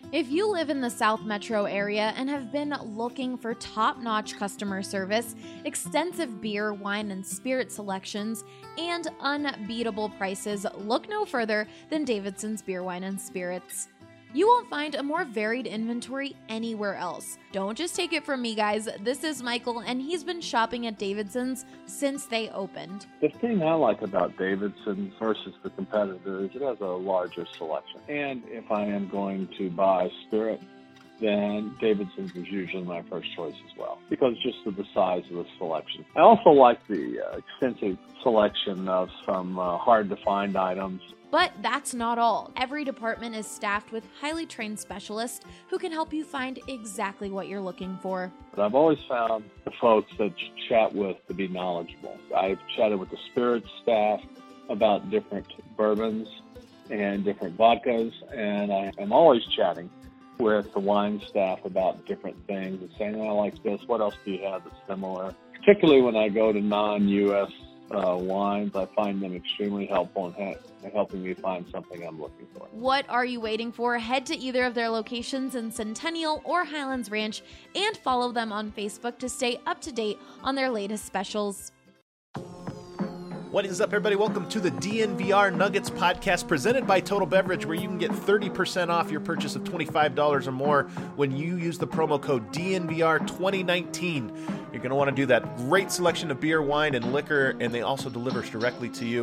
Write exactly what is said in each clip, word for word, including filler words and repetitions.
If you live in the South Metro area and have been looking for top-notch customer service, extensive beer, wine, and spirit selections, and unbeatable prices, look no further than Davidson's Beer, Wine, and Spirits. You won't find a more varied inventory anywhere else. Don't just take it from me, guys. This is Michael, and he's been shopping at Davidson's since they opened. The thing I like about Davidson's versus the competitor is it has a larger selection. And if I am going to buy spirit, then Davidson's is usually my first choice as well, because just of the size of the selection. I also like the uh, extensive selection of some uh, hard-to-find items. But that's not all. Every department is staffed with highly trained specialists who can help you find exactly what you're looking for. But I've always found the folks that you chat with to be knowledgeable. I've chatted with the spirits staff about different bourbons and different vodkas, and I am always chatting with the wine staff about different things and saying, oh, I like this, what else do you have that's similar? Particularly when I go to non-U S Uh, wines, I find them extremely helpful in ha- helping me find something I'm looking for. What are you waiting for? Head to either of their locations in Centennial or Highlands Ranch and follow them on Facebook to stay up to date on their latest specials. What is up, everybody? Welcome to the D N V R Nuggets podcast presented by Total Beverage, where you can get thirty percent off your purchase of twenty-five dollars or more when you use the promo code D N V R twenty nineteen. You're going to want to do that. Great selection of beer, wine, and liquor, and they also deliver directly to you.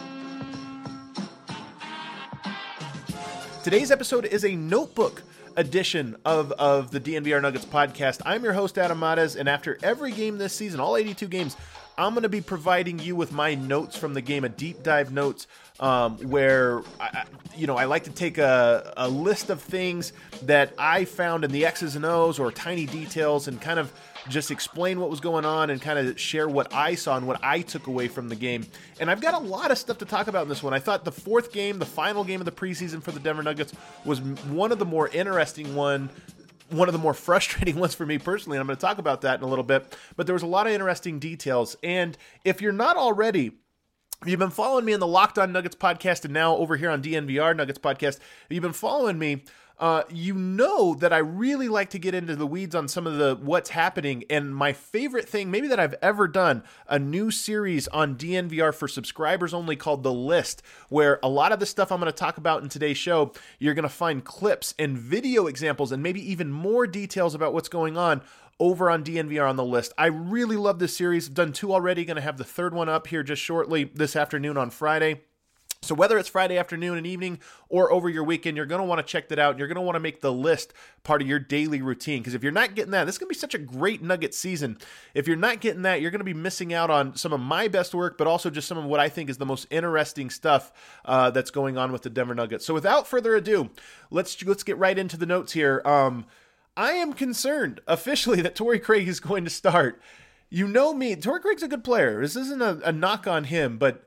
Today's episode is a notebook edition of, of the D N V R Nuggets podcast. I'm your host, Adam Mares, and after every game this season, all eighty-two games, I'm going to be providing you with my notes from the game, a deep dive notes, um, where I, you know I like to take a, a list of things that I found in the X's and O's or tiny details and kind of just explain what was going on and kind of share what I saw and what I took away from the game. And I've got a lot of stuff to talk about in this one. I thought the fourth game, the final game of the preseason for the Denver Nuggets, was one of the more interesting one. One of the more frustrating ones for me personally, and I'm going to talk about that in a little bit, but there was a lot of interesting details. And if you're not already, if you've been following me in the Locked On Nuggets podcast and now over here on D N V R Nuggets podcast, if you've been following me, Uh, you know that I really like to get into the weeds on some of the what's happening, and my favorite thing maybe that I've ever done, a new series on D N V R for subscribers only called The List, where a lot of the stuff I'm going to talk about in today's show, you're going to find clips and video examples and maybe even more details about what's going on over on D N V R on The List. I really love this series. I've done two already, going to have the third one up here just shortly this afternoon on Friday. So whether it's Friday afternoon and evening or over your weekend, you're going to want to check that out. You're going to want to make The List part of your daily routine, because if you're not getting that, this is going to be such a great Nugget season. If you're not getting that, you're going to be missing out on some of my best work, but also just some of what I think is the most interesting stuff uh, that's going on with the Denver Nuggets. So without further ado, let's let's get right into the notes here. Um, I am concerned officially that Torrey Craig is going to start. You know me, Torrey Craig's a good player. This isn't a, a knock on him, but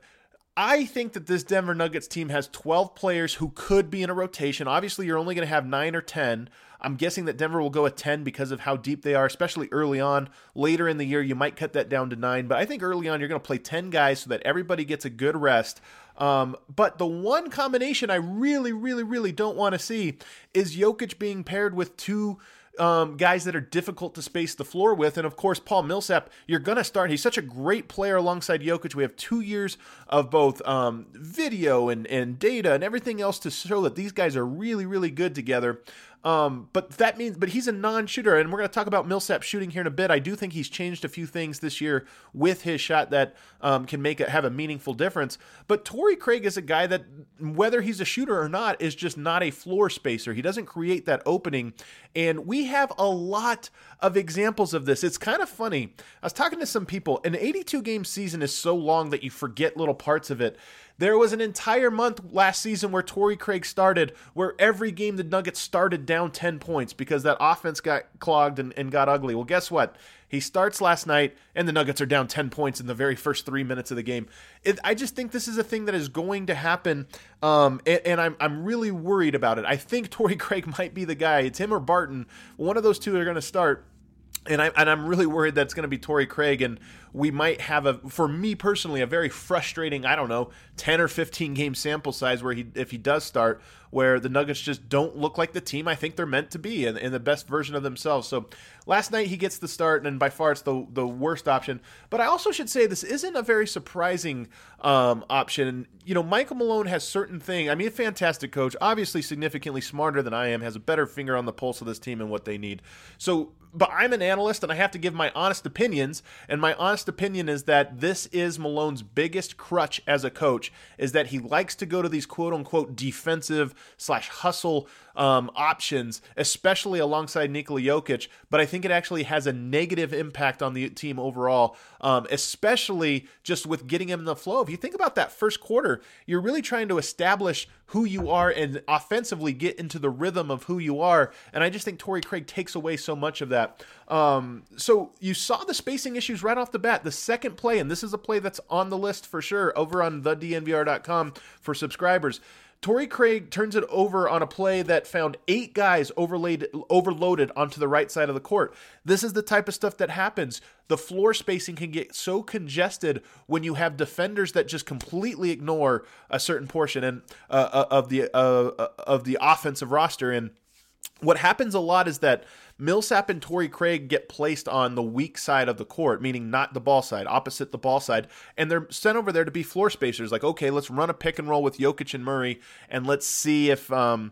I think that this Denver Nuggets team has twelve players who could be in a rotation. Obviously, you're only going to have nine or ten. I'm guessing that Denver will go at ten because of how deep they are, especially early on. Later in the year, you might cut that down to nine. But I think early on, you're going to play ten guys so that everybody gets a good rest. Um, but the one combination I really, really, really don't want to see is Jokic being paired with two Um, guys that are difficult to space the floor with. And of course, Paul Millsap, you're going to start. He's such a great player alongside Jokic. We have two years of both um, video and, and data and everything else to show that these guys are really, really good together. Um, but that means, but he's a non-shooter, and we're going to talk about Millsap shooting here in a bit. I do think he's changed a few things this year with his shot that um, can make it have a meaningful difference. But Torrey Craig is a guy that, whether he's a shooter or not, is just not a floor spacer. He doesn't create that opening, and we have a lot of examples of this. It's kind of funny. I was talking to some people. An eighty-two game season is so long that you forget little parts of it. There was an entire month last season where Torrey Craig started, where every game the Nuggets started down ten points because that offense got clogged and, and got ugly. Well, guess what? He starts last night, and the Nuggets are down ten points in the very first three minutes of the game. It, I just think this is a thing that is going to happen, um, and, and I'm I'm really worried about it. I think Torrey Craig might be the guy. It's him or Barton. One of those two are going to start. And, I, and I'm really worried that's going to be Torrey Craig. And we might have a, for me personally, a very frustrating, I don't know, ten or fifteen game sample size where he, if he does start, where the Nuggets just don't look like the team I think they're meant to be and, and the best version of themselves. So last night he gets the start, and by far it's the the worst option. But I also should say this isn't a very surprising um, option. You know, Michael Malone has certain things. I mean, a fantastic coach, obviously significantly smarter than I am, has a better finger on the pulse of this team and what they need. So, but I'm an analyst, and I have to give my honest opinions, and my honest opinion is that this is Malone's biggest crutch as a coach, is that he likes to go to these quote-unquote defensive slash hustle um, options, especially alongside Nikola Jokic, but I think it actually has a negative impact on the team overall, um, especially just with getting him in the flow. If you think about that first quarter, you're really trying to establish who you are and offensively get into the rhythm of who you are, and I just think Torrey Craig takes away so much of that. Um, so you saw the spacing issues right off the bat. The second play, and this is a play that's on the list for sure over on the D N V R dot com for subscribers, Torrey Craig turns it over on a play that found eight guys overlaid, overloaded onto the right side of the court. This is the type of stuff that happens. The floor spacing can get so congested when you have defenders that just completely ignore a certain portion and uh, of the uh, of the offensive roster. And what happens a lot is that Millsap and Torrey Craig get placed on the weak side of the court, meaning not the ball side, opposite the ball side, and they're sent over there to be floor spacers. Like, okay, let's run a pick and roll with Jokic and Murray, and let's see if um,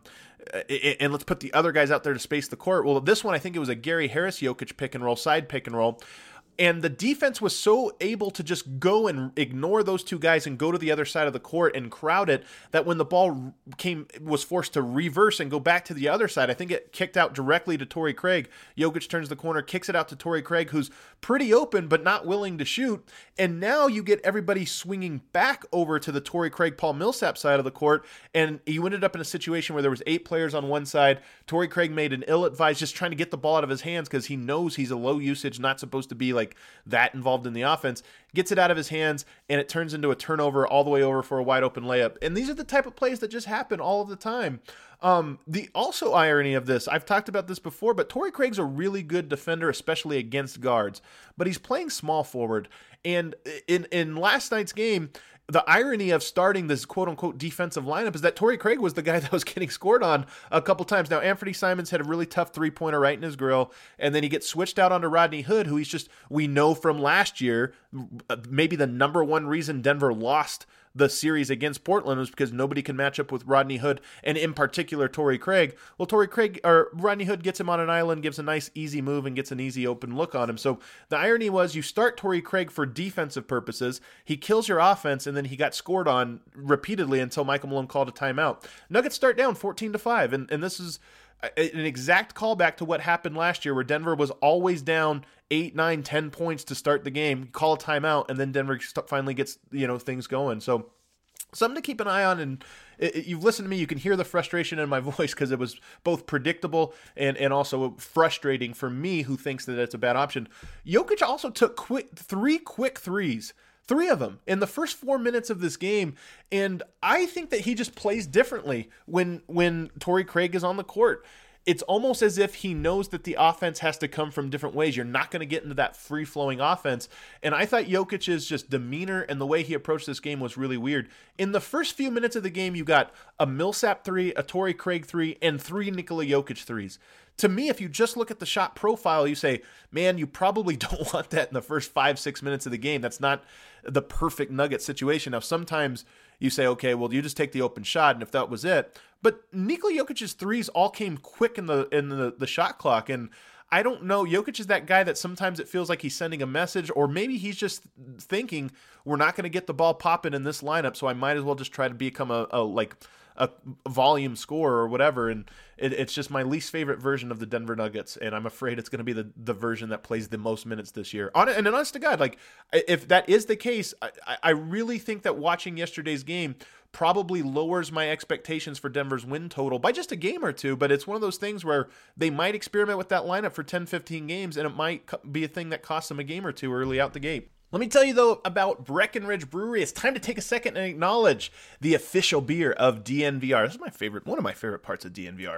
and let's put the other guys out there to space the court. Well, this one, I think it was a Gary Harris Jokic pick and roll, side pick and roll. And the defense was so able to just go and ignore those two guys and go to the other side of the court and crowd it that when the ball came, was forced to reverse and go back to the other side, I think it kicked out directly to Torrey Craig. Jokic turns the corner, kicks it out to Torrey Craig, who's pretty open but not willing to shoot. And now you get everybody swinging back over to the Torrey Craig, Paul Millsap side of the court, and you ended up in a situation where there was eight players on one side. Torrey Craig made an ill-advised, just trying to get the ball out of his hands because he knows he's a low usage, not supposed to be like Like that involved in the offense, gets it out of his hands, and it turns into a turnover all the way over for a wide open layup. And these are the type of plays that just happen all of the time. Um, the also irony of this, I've talked about this before, but Torrey Craig's a really good defender, especially against guards, but he's playing small forward. And in, in last night's game, the irony of starting this quote-unquote defensive lineup is that Torrey Craig was the guy that was getting scored on a couple times. Now, Anthony Simons had a really tough three-pointer right in his grill, and then he gets switched out onto Rodney Hood, who he's just, we know from last year, maybe the number one reason Denver lost the series against Portland was because nobody can match up with Rodney Hood, and in particular Torrey Craig. Well, Torrey Craig or Rodney Hood gets him on an island, gives a nice easy move, and gets an easy open look on him. So the irony was you start Torrey Craig for defensive purposes, he kills your offense, and then he got scored on repeatedly until Michael Malone called a timeout. Nuggets start down fourteen to five, and, and this is an exact callback to what happened last year where Denver was always down eight, nine, ten points to start the game, call a timeout, and then Denver finally gets, you know, things going. So something to keep an eye on, and it, it, you've listened to me, you can hear the frustration in my voice because it was both predictable and, and also frustrating for me who thinks that it's a bad option. Jokic also took quick three quick threes. Three of them in the first four minutes of this game, and I think that he just plays differently when when Torrey Craig is on the court. It's almost as if he knows that the offense has to come from different ways. You're not going to get into that free-flowing offense. And I thought Jokic's just demeanor and the way he approached this game was really weird. In the first few minutes of the game, you got a Millsap three, a Torrey Craig three, and three Nikola Jokic threes. To me, if you just look at the shot profile, you say, man, you probably don't want that in the first five, six minutes of the game. That's not the perfect Nugget situation. Now, sometimes you say, okay, well, you just take the open shot, and if that was it. But Nikola Jokic's threes all came quick in the in the, the shot clock, and I don't know. Jokic is that guy that sometimes it feels like he's sending a message, or maybe he's just thinking we're not going to get the ball popping in this lineup, so I might as well just try to become a, a like a volume scorer or whatever. And it, it's just my least favorite version of the Denver Nuggets, and I'm afraid it's going to be the, the version that plays the most minutes this year. On and honest to God, like if that is the case, I, I really think that watching yesterday's game probably lowers my expectations for Denver's win total by just a game or two, but it's one of those things where they might experiment with that lineup for ten, fifteen games, and it might be a thing that costs them a game or two early out the gate. Let me tell you, though, about Breckenridge Brewery. It's time to take a second and acknowledge the official beer of D N V R. This is my favorite, one of my favorite parts of D N V R.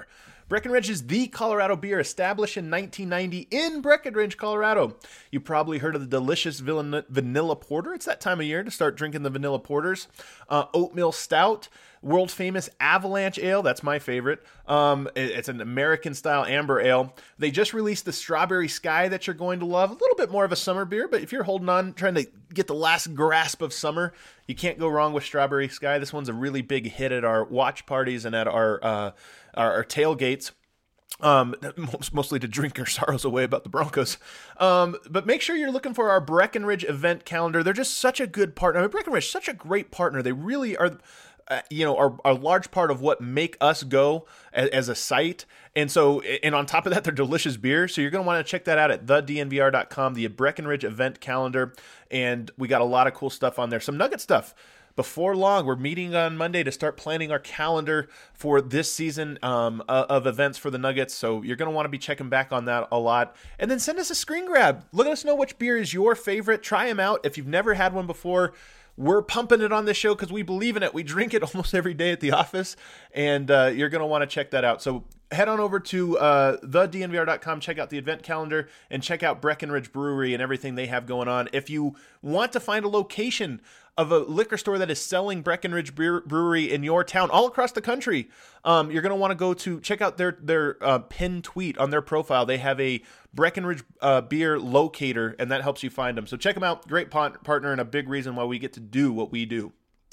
Breckenridge is the Colorado beer established in nineteen ninety in Breckenridge, Colorado. You probably heard of the delicious vanilla porter. It's that time of year to start drinking the vanilla porters. Uh, oatmeal stout, world famous Avalanche Ale. That's my favorite. Um, it, it's an American style amber ale. They just released the Strawberry Sky that you're going to love. A little bit more of a summer beer, but if you're holding on, trying to get the last grasp of summer, you can't go wrong with Strawberry Sky. This one's a really big hit at our watch parties and at our uh, our, our tailgates. Um, mostly to drink your sorrows away about the Broncos. Um, but make sure you're looking for our Breckenridge event calendar. They're just such a good partner. I mean, Breckenridge, such a great partner. They really are, uh, you know, are, are a large part of what make us go as, as a site. And so, and on top of that, they're delicious beer. So you're going to want to check that out at the D N V R dot com, the Breckenridge event calendar. And we got a lot of cool stuff on there. Some Nugget stuff. Before long, we're meeting on Monday to start planning our calendar for this season um, of events for the Nuggets. So you're going to want to be checking back on that a lot. And then send us a screen grab. Let us know which beer is your favorite. Try them out. If you've never had one before, we're pumping it on this show because we believe in it. We drink it almost every day at the office. And uh, you're going to want to check that out. So head on over to uh, the D N V R dot com, check out the event calendar, and check out Breckenridge Brewery and everything they have going on. If you want to find a location of a liquor store that is selling Breckenridge Brewery in your town, all across the country, um, you're going to want to go to check out their their uh, pinned tweet on their profile. They have a Breckenridge uh, beer locator, and that helps you find them. So check them out. Great partner and a big reason why we get to do what we do.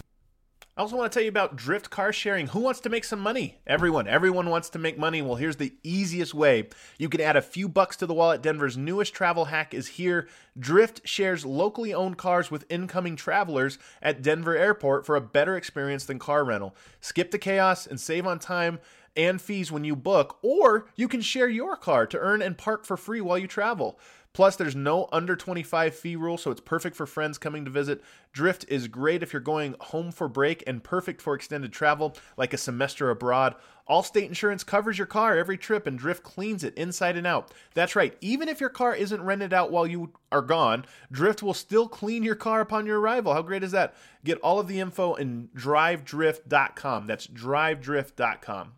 I also want to tell you about Drift Car Sharing. Who wants to make some money? Everyone. Everyone wants to make money. Well, here's the easiest way. You can add a few bucks to the wallet. Denver's newest travel hack is here. Drift shares locally owned cars with incoming travelers at Denver Airport for a better experience than car rental. Skip the chaos and save on time and fees when you book, or you can share your car to earn and park for free while you travel. Plus, there's no under twenty-five fee rule, so it's perfect for friends coming to visit. Drift is great if you're going home for break and perfect for extended travel, like a semester abroad. Allstate Insurance covers your car every trip, and Drift cleans it inside and out. That's right, even if your car isn't rented out while you are gone, Drift will still clean your car upon your arrival. How great is that? Get all of the info in drive drift dot com. That's drive drift dot com.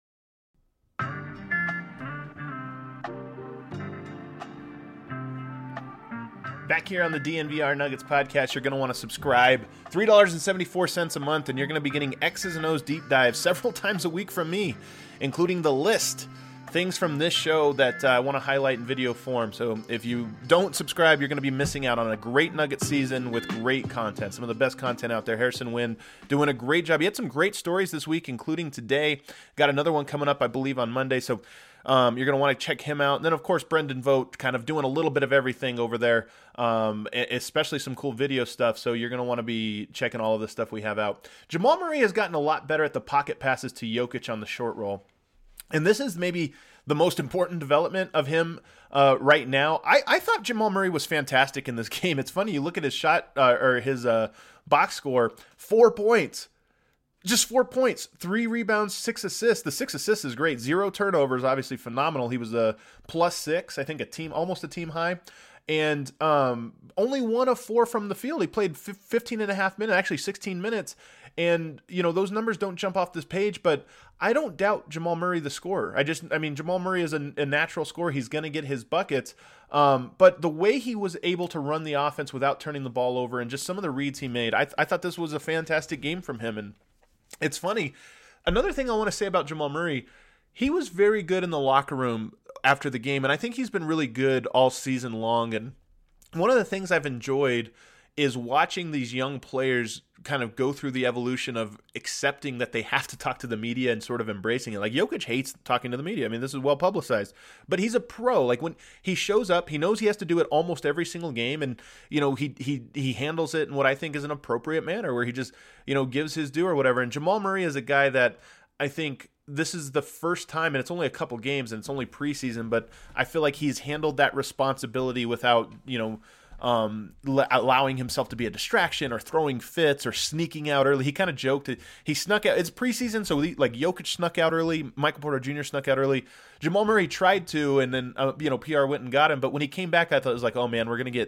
Back here on the D N V R Nuggets podcast, you're going to want to subscribe. three dollars and seventy-four cents a month, and you're going to be getting X's and O's deep dives several times a week from me, including the list. Things from this show that uh, I want to highlight in video form. So if you don't subscribe, you're going to be missing out on a great Nugget season with great content. Some of the best content out there. Harrison Wind doing a great job. He had some great stories this week, including today. Got another one coming up, I believe, on Monday. So Um, you're going to want to check him out. And then, of course, Brendan Vogt kind of doing a little bit of everything over there, um, especially some cool video stuff. So you're going to want to be checking all of the stuff we have out. Jamal Murray has gotten a lot better at the pocket passes to Jokic on the short roll. And this is maybe the most important development of him uh, right now. I, I thought Jamal Murray was fantastic in this game. It's funny, you look at his shot uh, or his uh, box score, four points. Just four points, three rebounds, six assists. The six assists is great. Zero turnovers, obviously phenomenal. He was a plus six, I think a team, almost a team high. And um, only one of four from the field. He played fifteen and a half minutes, actually sixteen minutes. And, you know, those numbers don't jump off this page, but I don't doubt Jamal Murray, the scorer. I just, I mean, Jamal Murray is a, a natural scorer. He's going to get his buckets. Um, but the way he was able to run the offense without turning the ball over and just some of the reads he made, I, th- I thought this was a fantastic game from him. And it's funny. Another thing I want to say about Jamal Murray, he was very good in the locker room after the game, and I think he's been really good all season long. And one of the things I've enjoyed is watching these young players kind of go through the evolution of accepting that they have to talk to the media and sort of embracing it. Like Jokic hates talking to the media. I mean, this is well publicized, but he's a pro. Like when he shows up, he knows he has to do it almost every single game. And, you know, he, he, he handles it in what I think is an appropriate manner where he just, you know, gives his due or whatever. And Jamal Murray is a guy that I think this is the first time, and it's only a couple games and it's only preseason, but I feel like he's handled that responsibility without, you know, um, l- allowing himself to be a distraction or throwing fits or sneaking out early. He kind of joked that he snuck out. It's preseason, so he, like Jokic snuck out early, Michael Porter Junior snuck out early. Jamal Murray tried to, and then uh, you know P R went and got him. But when he came back, I thought it was like, oh man, we're gonna get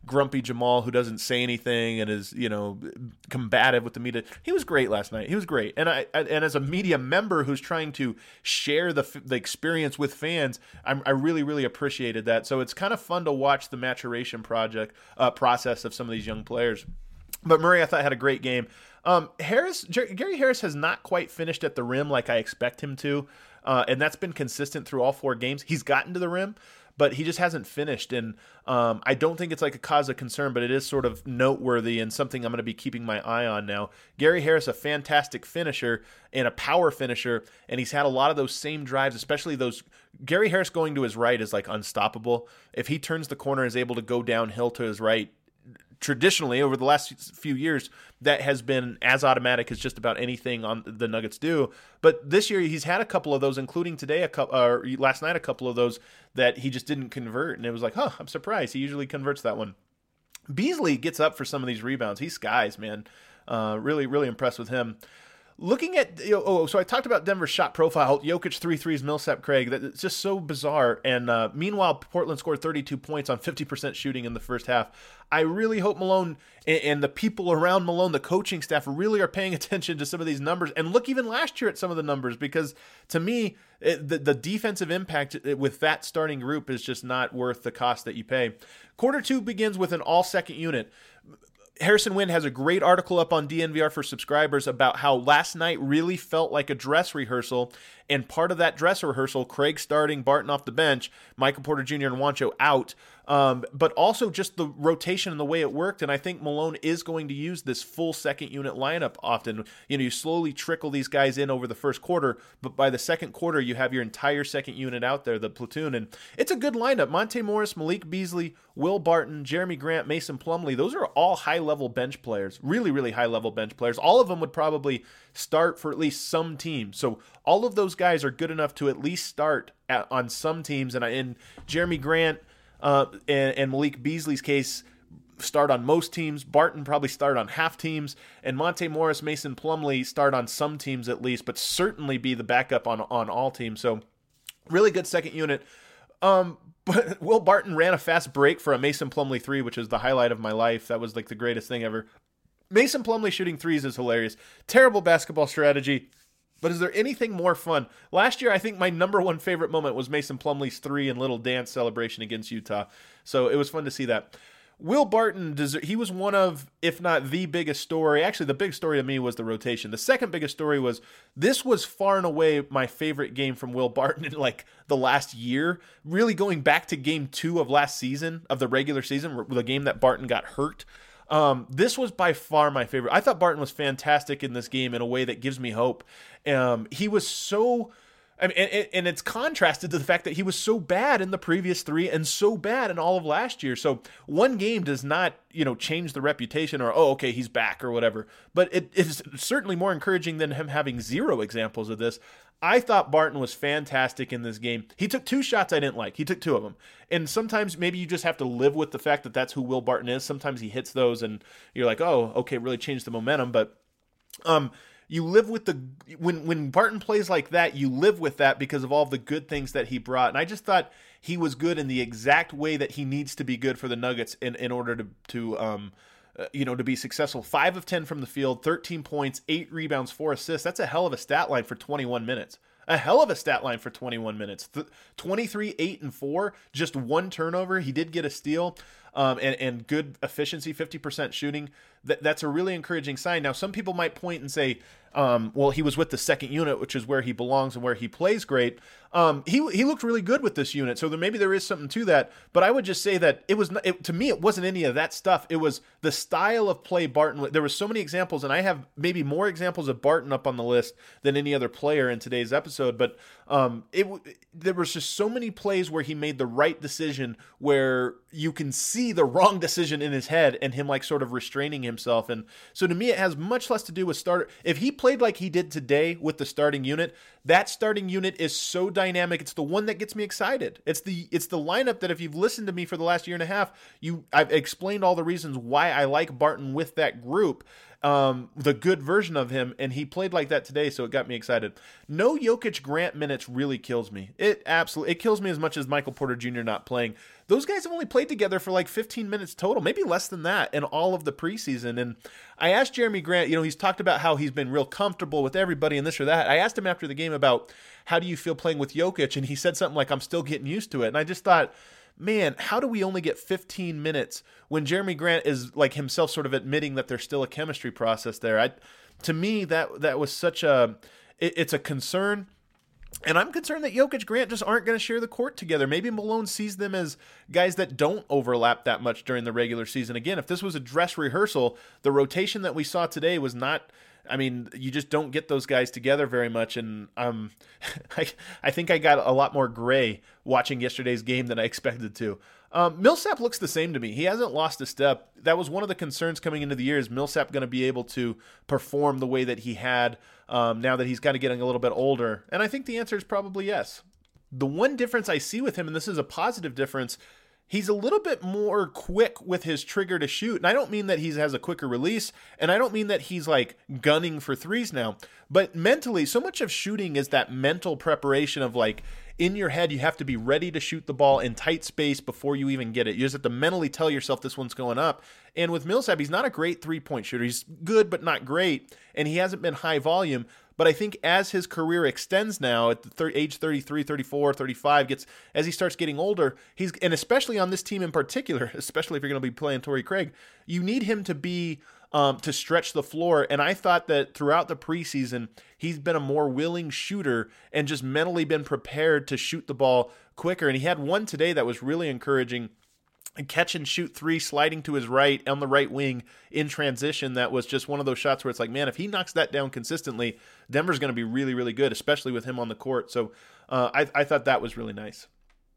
grumpy Jamal who doesn't say anything and is, you know, combative with the media. He was great last night. He was great. And I and as a media member who's trying to share the the experience with fans, I'm, I really, really appreciated that. So it's kind of fun to watch the maturation project uh, process of some of these young players. But Murray, I thought, had a great game. Um, Harris, Jer- Gary Harris has not quite finished at the rim like I expect him to, uh, and that's been consistent through all four games. He's gotten to the rim, but he just hasn't finished, and um, I don't think it's like a cause of concern, but it is sort of noteworthy and something I'm going to be keeping my eye on now. Gary Harris, a fantastic finisher and a power finisher, and he's had a lot of those same drives, especially those. Gary Harris going to his right is like unstoppable. If he turns the corner and is able to go downhill to his right, traditionally over the last few years, that has been as automatic as just about anything on the Nuggets do. But this year he's had a couple of those, including today, a couple, or last night, a couple of those that he just didn't convert. And it was like, huh, I'm surprised. He usually converts that one. Beasley gets up for some of these rebounds. He skies, man. Uh, really, really impressed with him. Looking at, you know, oh, so I talked about Denver's shot profile. Jokic three threes, Millsap, Craig. That, it's just so bizarre. And uh, meanwhile, Portland scored thirty-two points on fifty percent shooting in the first half. I really hope Malone and, and the people around Malone, the coaching staff, really are paying attention to some of these numbers. And look even last year at some of the numbers, because to me, it, the, the defensive impact with that starting group is just not worth the cost that you pay. Quarter two begins with an all-second unit. Harrison Wind has a great article up on D N V R for subscribers about how last night really felt like a dress rehearsal, and part of that dress rehearsal, Craig starting, Barton off the bench, Michael Porter Junior and Juancho out, um, but also just the rotation and the way it worked, and I think Malone is going to use this full second unit lineup often. You know, you slowly trickle these guys in over the first quarter, but by the second quarter, you have your entire second unit out there, the platoon, and it's a good lineup. Monte Morris, Malik Beasley, Will Barton, Jeremy Grant, Mason Plumlee, those are all high-level bench players, really, really high-level bench players. All of them would probably start for at least some team. So all of those guys are good enough to at least start at, on some teams. And in Jeremy Grant uh, and, and Malik Beasley's case, start on most teams. Barton probably start on half teams. And Monte Morris, Mason Plumlee start on some teams at least, but certainly be the backup on, on all teams. So really good second unit. Um, but Will Barton ran a fast break for a Mason Plumlee three, which is the highlight of my life. That was like the greatest thing ever. Mason Plumlee shooting threes is hilarious. Terrible basketball strategy, but is there anything more fun? Last year, I think my number one favorite moment was Mason Plumlee's three and little dance celebration against Utah. So it was fun to see that. Will Barton, he was one of, if not the biggest story. Actually, the big story to me was the rotation. The second biggest story was this was far and away my favorite game from Will Barton in like the last year. Really going back to game two of last season, of the regular season, the game that Barton got hurt. Um, this was by far my favorite. I thought Barton was fantastic in this game in a way that gives me hope. Um, he was so... I mean, and, and it's contrasted to the fact that he was so bad in the previous three and so bad in all of last year. So one game does not, you know, change the reputation or, oh, okay, he's back or whatever. But it is certainly more encouraging than him having zero examples of this. I thought Barton was fantastic in this game. He took two shots I didn't like. He took two of them. And sometimes maybe you just have to live with the fact that that's who Will Barton is. Sometimes he hits those and you're like, oh, okay, really changed the momentum. But, um, You live with the when when Barton plays like that, you live with that because of all the good things that he brought. And I just thought he was good in the exact way that he needs to be good for the Nuggets in, in order to to um uh, you know to be successful. Five of ten from the field, thirteen points, eight rebounds, four assists. That's a hell of a stat line for twenty-one minutes. A hell of a stat line for twenty-one minutes. Th- twenty-three, eight, and four. Just one turnover. He did get a steal. Um, and, and good efficiency, fifty percent shooting. That, that's a really encouraging sign. Now, some people might point and say, um, well, he was with the second unit, which is where he belongs and where he plays great. Um, he he looked really good with this unit, so there, maybe there is something to that. But I would just say that it was it, to me, it wasn't any of that stuff. It was the style of play Barton. There were so many examples, and I have maybe more examples of Barton up on the list than any other player in today's episode. But um, it there was just so many plays where he made the right decision, where you can see the wrong decision in his head and him like sort of restraining himself. And so to me, it has much less to do with starter. If he played like he did today with the starting unit, that starting unit is so dynamic. It's the one that gets me excited. It's the it's the lineup that if you've listened to me for the last year and a half, you I've explained all the reasons why I like Barton with that group. um, the good version of him, and he played like that today, so it got me excited. No Jokic Grant minutes really kills me. It absolutely it kills me as much as Michael Porter Junior not playing. Those guys have only played together for like fifteen minutes total, maybe less than that in all of the preseason. And I asked Jeremy Grant, you know, he's talked about how he's been real comfortable with everybody and this or that. I asked him after the game about how do you feel playing with Jokic, and he said something like, I'm still getting used to it. And I just thought, man, how do we only get fifteen minutes when Jeremy Grant is like himself sort of admitting that there's still a chemistry process there? I, to me, that that was such a, it, it's a concern. And I'm concerned that Jokic Grant just aren't going to share the court together. Maybe Malone sees them as guys that don't overlap that much during the regular season. Again, if this was a dress rehearsal, the rotation that we saw today was not, I mean, you just don't get those guys together very much. And um, I, I think I got a lot more gray watching yesterday's game than I expected to. Um, Millsap looks the same to me. He hasn't lost a step. That was one of the concerns coming into the year. Is Millsap going to be able to perform the way that he had um, now that he's kind of getting a little bit older? And I think the answer is probably yes. The one difference I see with him, and this is a positive difference, he's a little bit more quick with his trigger to shoot. And I don't mean that he has a quicker release, and I don't mean that he's like gunning for threes now. But mentally, so much of shooting is that mental preparation of like, in your head, you have to be ready to shoot the ball in tight space before you even get it. You just have to mentally tell yourself this one's going up. And with Millsap, he's not a great three-point shooter. He's good, but not great. And he hasn't been high volume. But I think as his career extends now at the thir- age thirty-three, thirty-four, thirty-five, gets as he starts getting older, he's and especially on this team in particular, especially if you're going to be playing Torrey Craig, you need him to be um, to stretch the floor. And I thought that throughout the preseason, he's been a more willing shooter and just mentally been prepared to shoot the ball quicker. And he had one today that was really encouraging. A catch and shoot three, sliding to his right on the right wing in transition. That was just one of those shots where it's like, man, if he knocks that down consistently, Denver's going to be really, really good, especially with him on the court. So uh, I, I thought that was really nice.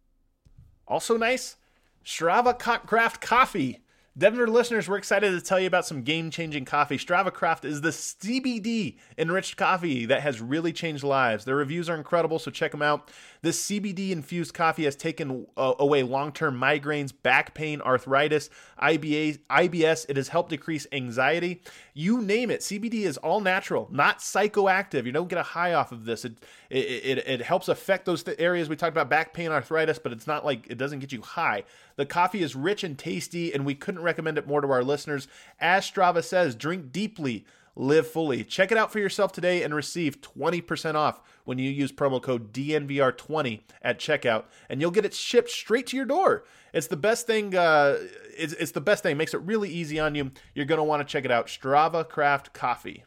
Also nice, Strava Craft Coffee. Denver listeners, we're excited to tell you about some game-changing coffee. Strava Craft is the C B D-enriched coffee that has really changed lives. Their reviews are incredible, so check them out. This C B D-infused coffee has taken uh, away long-term migraines, back pain, arthritis, I B A, I B S. It has helped decrease anxiety. You name it. C B D is all natural, not psychoactive. You don't get a high off of this. It it, it, it helps affect those th- areas we talked about, back pain, arthritis, but it's not like it doesn't get you high. The coffee is rich and tasty, and we couldn't recommend it more to our listeners. As Strava says, drink deeply, live fully. Check it out for yourself today and receive twenty percent off when you use promo code D N V R twenty at checkout, and you'll get it shipped straight to your door. It's the best thing. Uh, it's, it's the best thing. It makes it really easy on you. You're going to want to check it out. Strava Craft Coffee.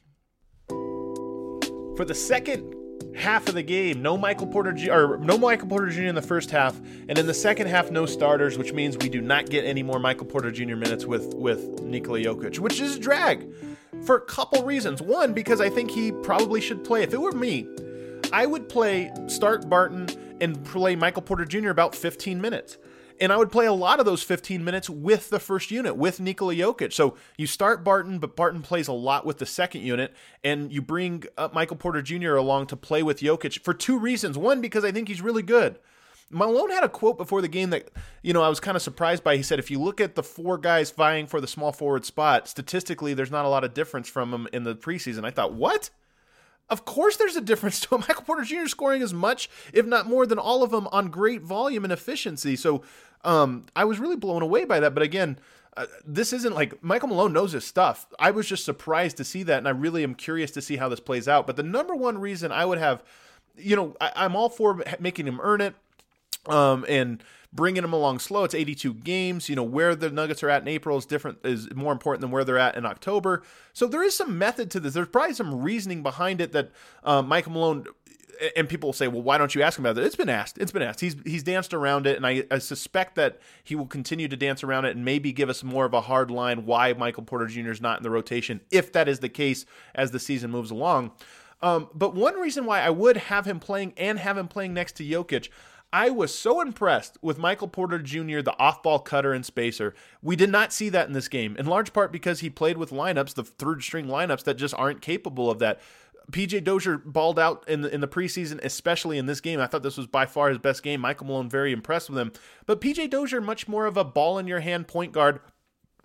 For the second half of the game, no Michael Porter Junior or no Michael Porter Junior in the first half, and in the second half, no starters, which means we do not get any more Michael Porter Junior minutes with with Nikola Jokic, which is a drag for a couple reasons. One, because I think he probably should play. If it were me, I would play start Barton and play Michael Porter Junior about fifteen minutes. And I would play a lot of those fifteen minutes with the first unit, with Nikola Jokic. So you start Barton, but Barton plays a lot with the second unit, and you bring up Michael Porter Junior along to play with Jokic for two reasons. One, because I think he's really good. Malone had a quote before the game that, you know, I was kind of surprised by. He said, if you look at the four guys vying for the small forward spot, statistically, there's not a lot of difference from them in the preseason. I thought, what? Of course there's a difference to him. Michael Porter Junior scoring as much, if not more, than all of them on great volume and efficiency. So um, I was really blown away by that. But again, uh, this isn't like Michael Malone knows his stuff. I was just surprised to see that, and I really am curious to see how this plays out. But the number one reason I would have, you know, I, I'm all for making him earn it. Um, and bringing them along slow. It's eighty-two games. You know, where the Nuggets are at in April is different, is more important than where they're at in October. So there is some method to this. There's probably some reasoning behind it that uh, Michael Malone, and people will say, well, why don't you ask him about it? It's been asked. It's been asked. He's he's danced around it, and I, I suspect that he will continue to dance around it and maybe give us more of a hard line why Michael Porter Junior is not in the rotation, if that is the case as the season moves along. Um, but one reason why I would have him playing and have him playing next to Jokic, I was so impressed with Michael Porter Junior, the off-ball cutter and spacer. We did not see that in this game, in large part because he played with lineups, the third-string lineups, that just aren't capable of that. P J Dozier balled out in the, in the preseason, especially in this game. I thought this was by far his best game. Michael Malone very impressed with him. But P J Dozier, much more of a ball-in-your-hand point guard,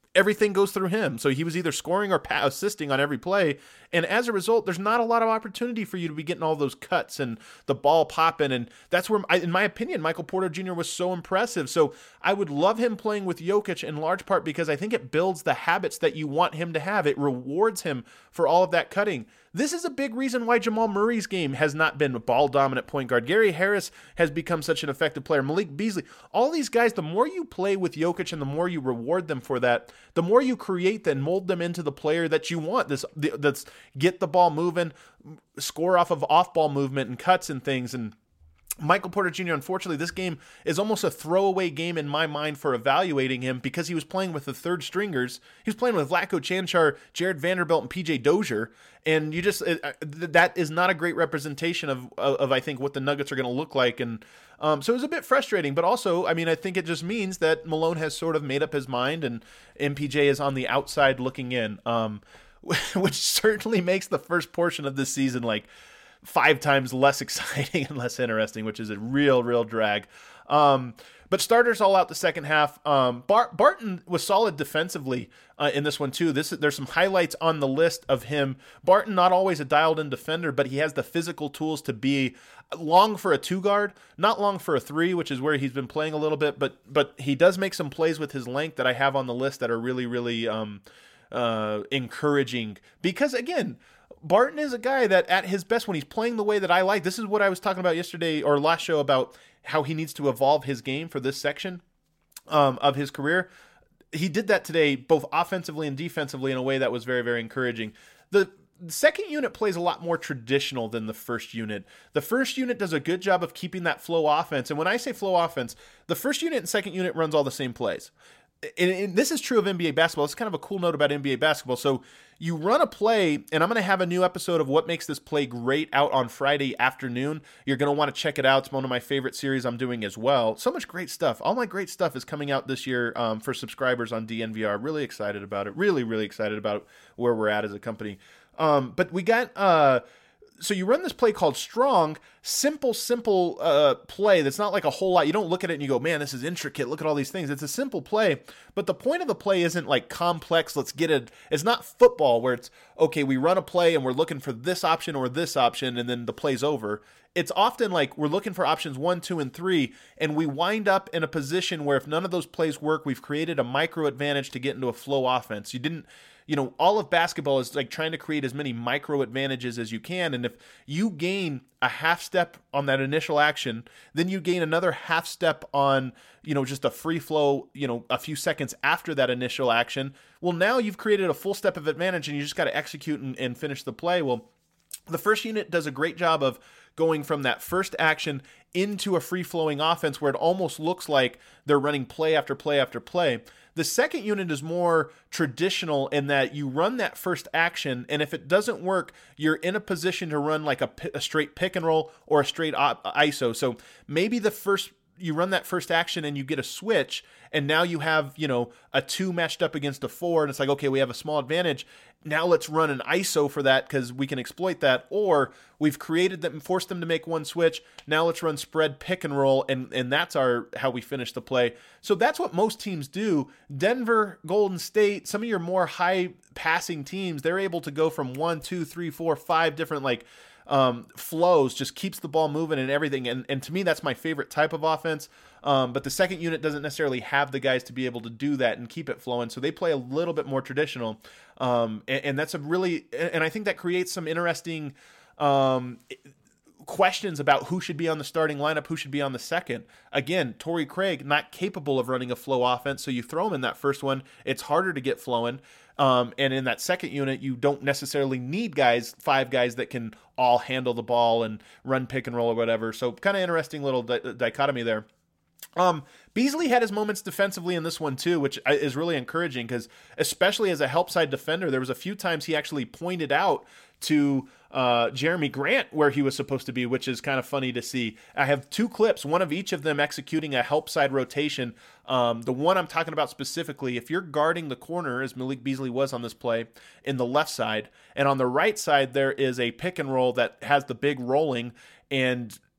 everything goes through him. So he was either scoring or pa- assisting on every play. And as a result, there's not a lot of opportunity for you to be getting all those cuts and the ball popping. And that's where, in my opinion, Michael Porter Junior was so impressive. So I would love him playing with Jokic in large part because I think it builds the habits that you want him to have. It rewards him for all of that cutting. This is a big reason why Jamal Murray's game has not been a ball-dominant point guard. Gary Harris has become such an effective player. Malik Beasley, all these guys, the more you play with Jokic and the more you reward them for that, the more you create and mold them into the player that you want. This that's get the ball moving, score off of off-ball movement and cuts and things. And Michael Porter Junior, unfortunately, this game is almost a throwaway game in my mind for evaluating him because he was playing with the third stringers. He was playing with Vlatko Cancar, Jared Vanderbilt, and P J Dozier. And you just, uh, that is not a great representation of, of, of I think, what the Nuggets are going to look like. And um, so it was a bit frustrating, but also, I mean, I think it just means that Malone has sort of made up his mind and M P J is on the outside looking in, um, which certainly makes the first portion of this season like five times less exciting and less interesting, which is a real, real drag. Um, but starters all out the second half. Um, Bar- Barton was solid defensively uh, in this one too. This there's some highlights on the list of him. Barton, not always a dialed-in defender, but he has the physical tools to be long for a two guard, not long for a three, which is where he's been playing a little bit. But but he does make some plays with his length that I have on the list that are really, really um, uh, encouraging. Because again, Barton is a guy that at his best, when he's playing the way that I like, this is what I was talking about yesterday or last show about how he needs to evolve his game for this section um, of his career. He did that today, both offensively and defensively, in a way that was very, very encouraging. The second unit plays a lot more traditional than the first unit. The first unit does a good job of keeping that flow offense. And when I say flow offense, the first unit and second unit runs all the same plays. And, and this is true of N B A basketball. It's kind of a cool note about N B A basketball. So you run a play, and I'm going to have a new episode of What Makes This Play Great out on Friday afternoon. You're going to want to check it out. It's one of my favorite series I'm doing as well. So much great stuff. All my great stuff is coming out this year um, for subscribers on D N V R. Really excited about it. Really, really excited about where we're at as a company. Um, but we got... Uh, So you run this play called Strong, simple, simple uh, play that's not like a whole lot. You don't look at it and you go, man, this is intricate. Look at all these things. It's a simple play, but the point of the play isn't like complex. Let's get it. It's not football where it's, okay, we run a play and we're looking for this option or this option and then the play's over. It's often like we're looking for options one, two, and three, and we wind up in a position where if none of those plays work, we've created a micro advantage to get into a flow offense. You didn't... You know, all of basketball is like trying to create as many micro advantages as you can. And if you gain a half step on that initial action, then you gain another half step on, you know, just a free flow, you know, a few seconds after that initial action. Well, now you've created a full step of advantage and you just got to execute and, and finish the play. Well, the first unit does a great job of going from that first action into a free-flowing offense where it almost looks like they're running play after play after play. The second unit is more traditional in that you run that first action, and if it doesn't work, you're in a position to run like a, a straight pick and roll or a straight I S O. So maybe the first you run that first action and you get a switch, and now you have, you know, a two matched up against a four, and it's like, okay, we have a small advantage. Now let's run an I S O for that because we can exploit that. Or we've created them, forced them to make one switch. Now let's run spread pick and roll, and and that's our how we finish the play. So that's what most teams do. Denver, Golden State, some of your more high passing teams, they're able to go from one, two, three, four, five different like Um, flows, just keeps the ball moving and everything. And, and to me, that's my favorite type of offense. Um, but the second unit doesn't necessarily have the guys to be able to do that and keep it flowing. So they play a little bit more traditional. Um, and, and that's a really, and I think that creates some interesting um, questions about who should be on the starting lineup, who should be on the second. Again, Torrey Craig, not capable of running a flow offense. So you throw him in that first one, it's harder to get flowing. Um, and in that second unit, you don't necessarily need guys, five guys that can all handle the ball and run pick and roll or whatever. So kind of interesting little di- dichotomy there. Um, Beasley had his moments defensively in this one too, which is really encouraging because especially as a help side defender, there was a few times he actually pointed out to uh, Jeremy Grant where he was supposed to be, which is kind of funny to see. I have two clips, one of each of them executing a help side rotation. Um, the one I'm talking about specifically, if you're guarding the corner, as Malik Beasley was on this play, in the left side, and on the right side there is a pick and roll that has the big rolling, and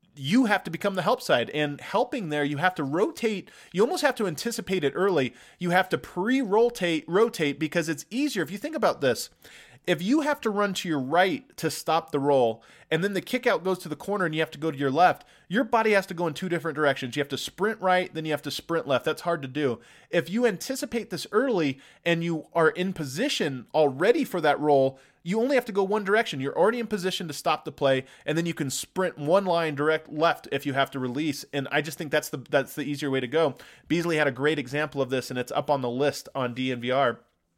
you have to become the help side, and helping there, you have to rotate. You almost have to anticipate it early. You have to pre-rotate, rotate, because it's easier. If you think about this, if you have to run to your right to stop the roll, and then the kick out goes to the corner and you have to go to your left, your body has to go in two different directions. You have to sprint right, then you have to sprint left. That's hard to do. If you anticipate this early and you are in position already for that roll, you only have to go one direction. You're already in position to stop the play, and then you can sprint one line direct left if you have to release. And I just think that's the that's the easier way to go. Beasley had a great example of this, and it's up on the list on D N V R.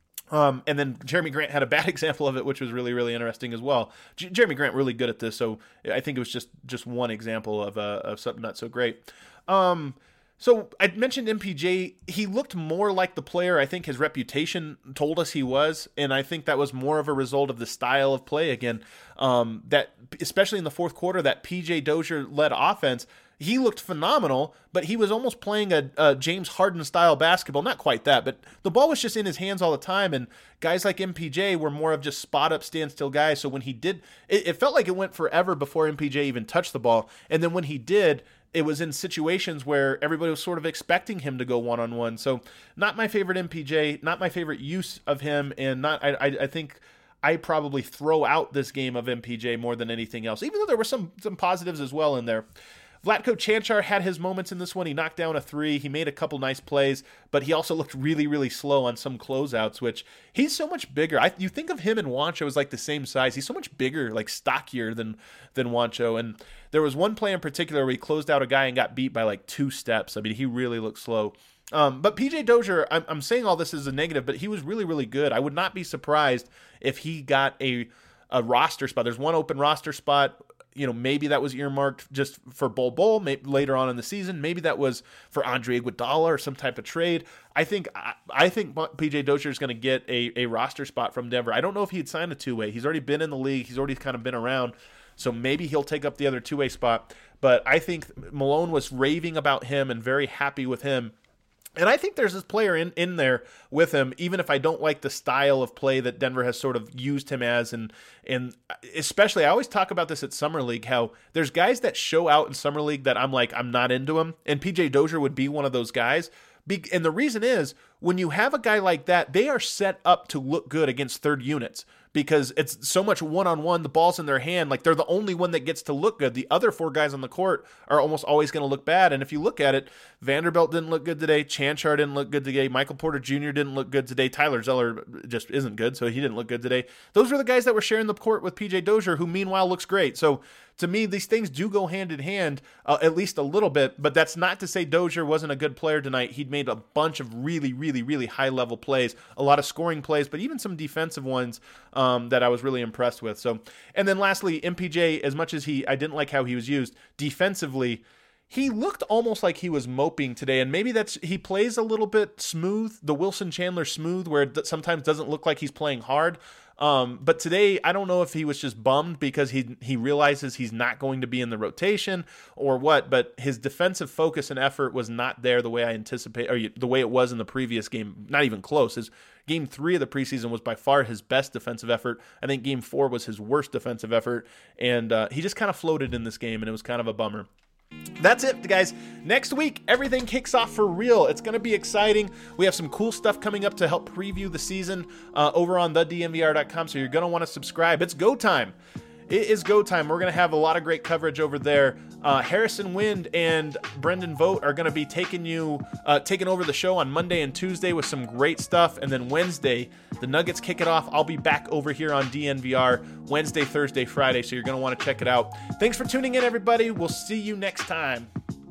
Um, and then Jeremy Grant had a bad example of it, which was really, really interesting as well. J- Jeremy Grant really good at this, so I think it was just just one example of uh, of something not so great. Um, so I mentioned M P J. He looked more like the player I think his reputation told us he was, and I think that was more of a result of the style of play again. Um, that especially in the fourth quarter, that P J Dozier led offense. He looked phenomenal, but he was almost playing a, a James Harden-style basketball. Not quite that, but the ball was just in his hands all the time, and guys like M P J were more of just spot-up, stand-still guys. So when he did, it, it felt like it went forever before M P J even touched the ball, and then when he did, it was in situations where everybody was sort of expecting him to go one-on-one. So not my favorite M P J, not my favorite use of him, and not I, I, I think I probably throw out this game of M P J more than anything else, even though there were some some positives as well in there. Vlatko Cancar had his moments in this one. He knocked down a three. He made a couple nice plays, but he also looked really, really slow on some closeouts, which he's so much bigger. I, you think of him and Juancho as like the same size. He's so much bigger, like stockier than, than Juancho. And there was one play in particular where he closed out a guy and got beat by like two steps. I mean, he really looked slow. Um, but P J Dozier, I'm, I'm saying all this as a negative, but he was really, really good. I would not be surprised if he got a, a roster spot. There's one open roster spot. You know, maybe that was earmarked just for Bol Bol maybe later on in the season. Maybe that was for Andre Iguodala or some type of trade. I think I, I think P J Dozier is going to get a, a roster spot from Denver. I don't know if he'd signed a two-way. He's already been in the league. He's already kind of been around. So maybe he'll take up the other two-way spot. But I think Malone was raving about him and very happy with him. And I think there's this player in, in there with him, even if I don't like the style of play that Denver has sort of used him as. And and especially, I always talk about this at Summer League, how there's guys that show out in Summer League that I'm like, I'm not into them. And P J Dozier would be one of those guys. Be, and the reason is, when you have a guy like that, they are set up to look good against third units. Because it's so much one-on-one, the ball's in their hand, like they're the only one that gets to look good. The other four guys on the court are almost always going to look bad. And if you look at it, Vanderbilt didn't look good today, Cancar didn't look good today, Michael Porter Junior didn't look good today, Tyler Zeller just isn't good, so he didn't look good today. Those were the guys that were sharing the court with P J Dozier, who meanwhile looks great. So to me, these things do go hand in hand, uh, at least a little bit, but that's not to say Dozier wasn't a good player tonight. He'd made a bunch of really, really, really high-level plays, a lot of scoring plays, but even some defensive ones um, that I was really impressed with. So, and then lastly, M P J, as much as he, I didn't like how he was used defensively, he looked almost like he was moping today, and maybe that's, he plays a little bit smooth, the Wilson Chandler smooth, where it sometimes doesn't look like he's playing hard. Um, but today, I don't know if he was just bummed because he he realizes he's not going to be in the rotation or what, but his defensive focus and effort was not there the way I anticipate, or the way it was in the previous game, not even close. His game three of the preseason was by far his best defensive effort. I think game four was his worst defensive effort, and uh, he just kind of floated in this game, and it was kind of a bummer. That's it, guys. Next week, everything kicks off for real. It's going to be exciting. We have some cool stuff coming up to help preview the season uh, over on the D N V R dot com, so you're going to want to subscribe. It's go time. It is go time. We're going to have a lot of great coverage over there. Uh, Harrison Wind and Brendan Vogt are going to be taking you, uh, taking over the show on Monday and Tuesday with some great stuff. And then Wednesday, the Nuggets kick it off. I'll be back over here on D N V R Wednesday, Thursday, Friday. So you're going to want to check it out. Thanks for tuning in, everybody. We'll see you next time.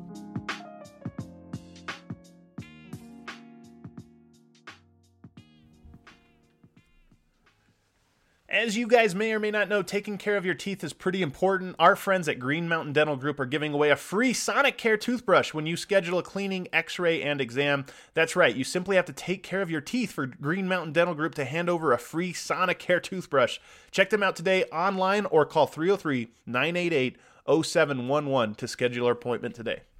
As you guys may or may not know, taking care of your teeth is pretty important. Our friends at Green Mountain Dental Group are giving away a free Sonicare toothbrush when you schedule a cleaning, x-ray, and exam. That's right, you simply have to take care of your teeth for Green Mountain Dental Group to hand over a free Sonicare toothbrush. Check them out today online or call three oh three, nine eight eight, oh seven one one to schedule your appointment today.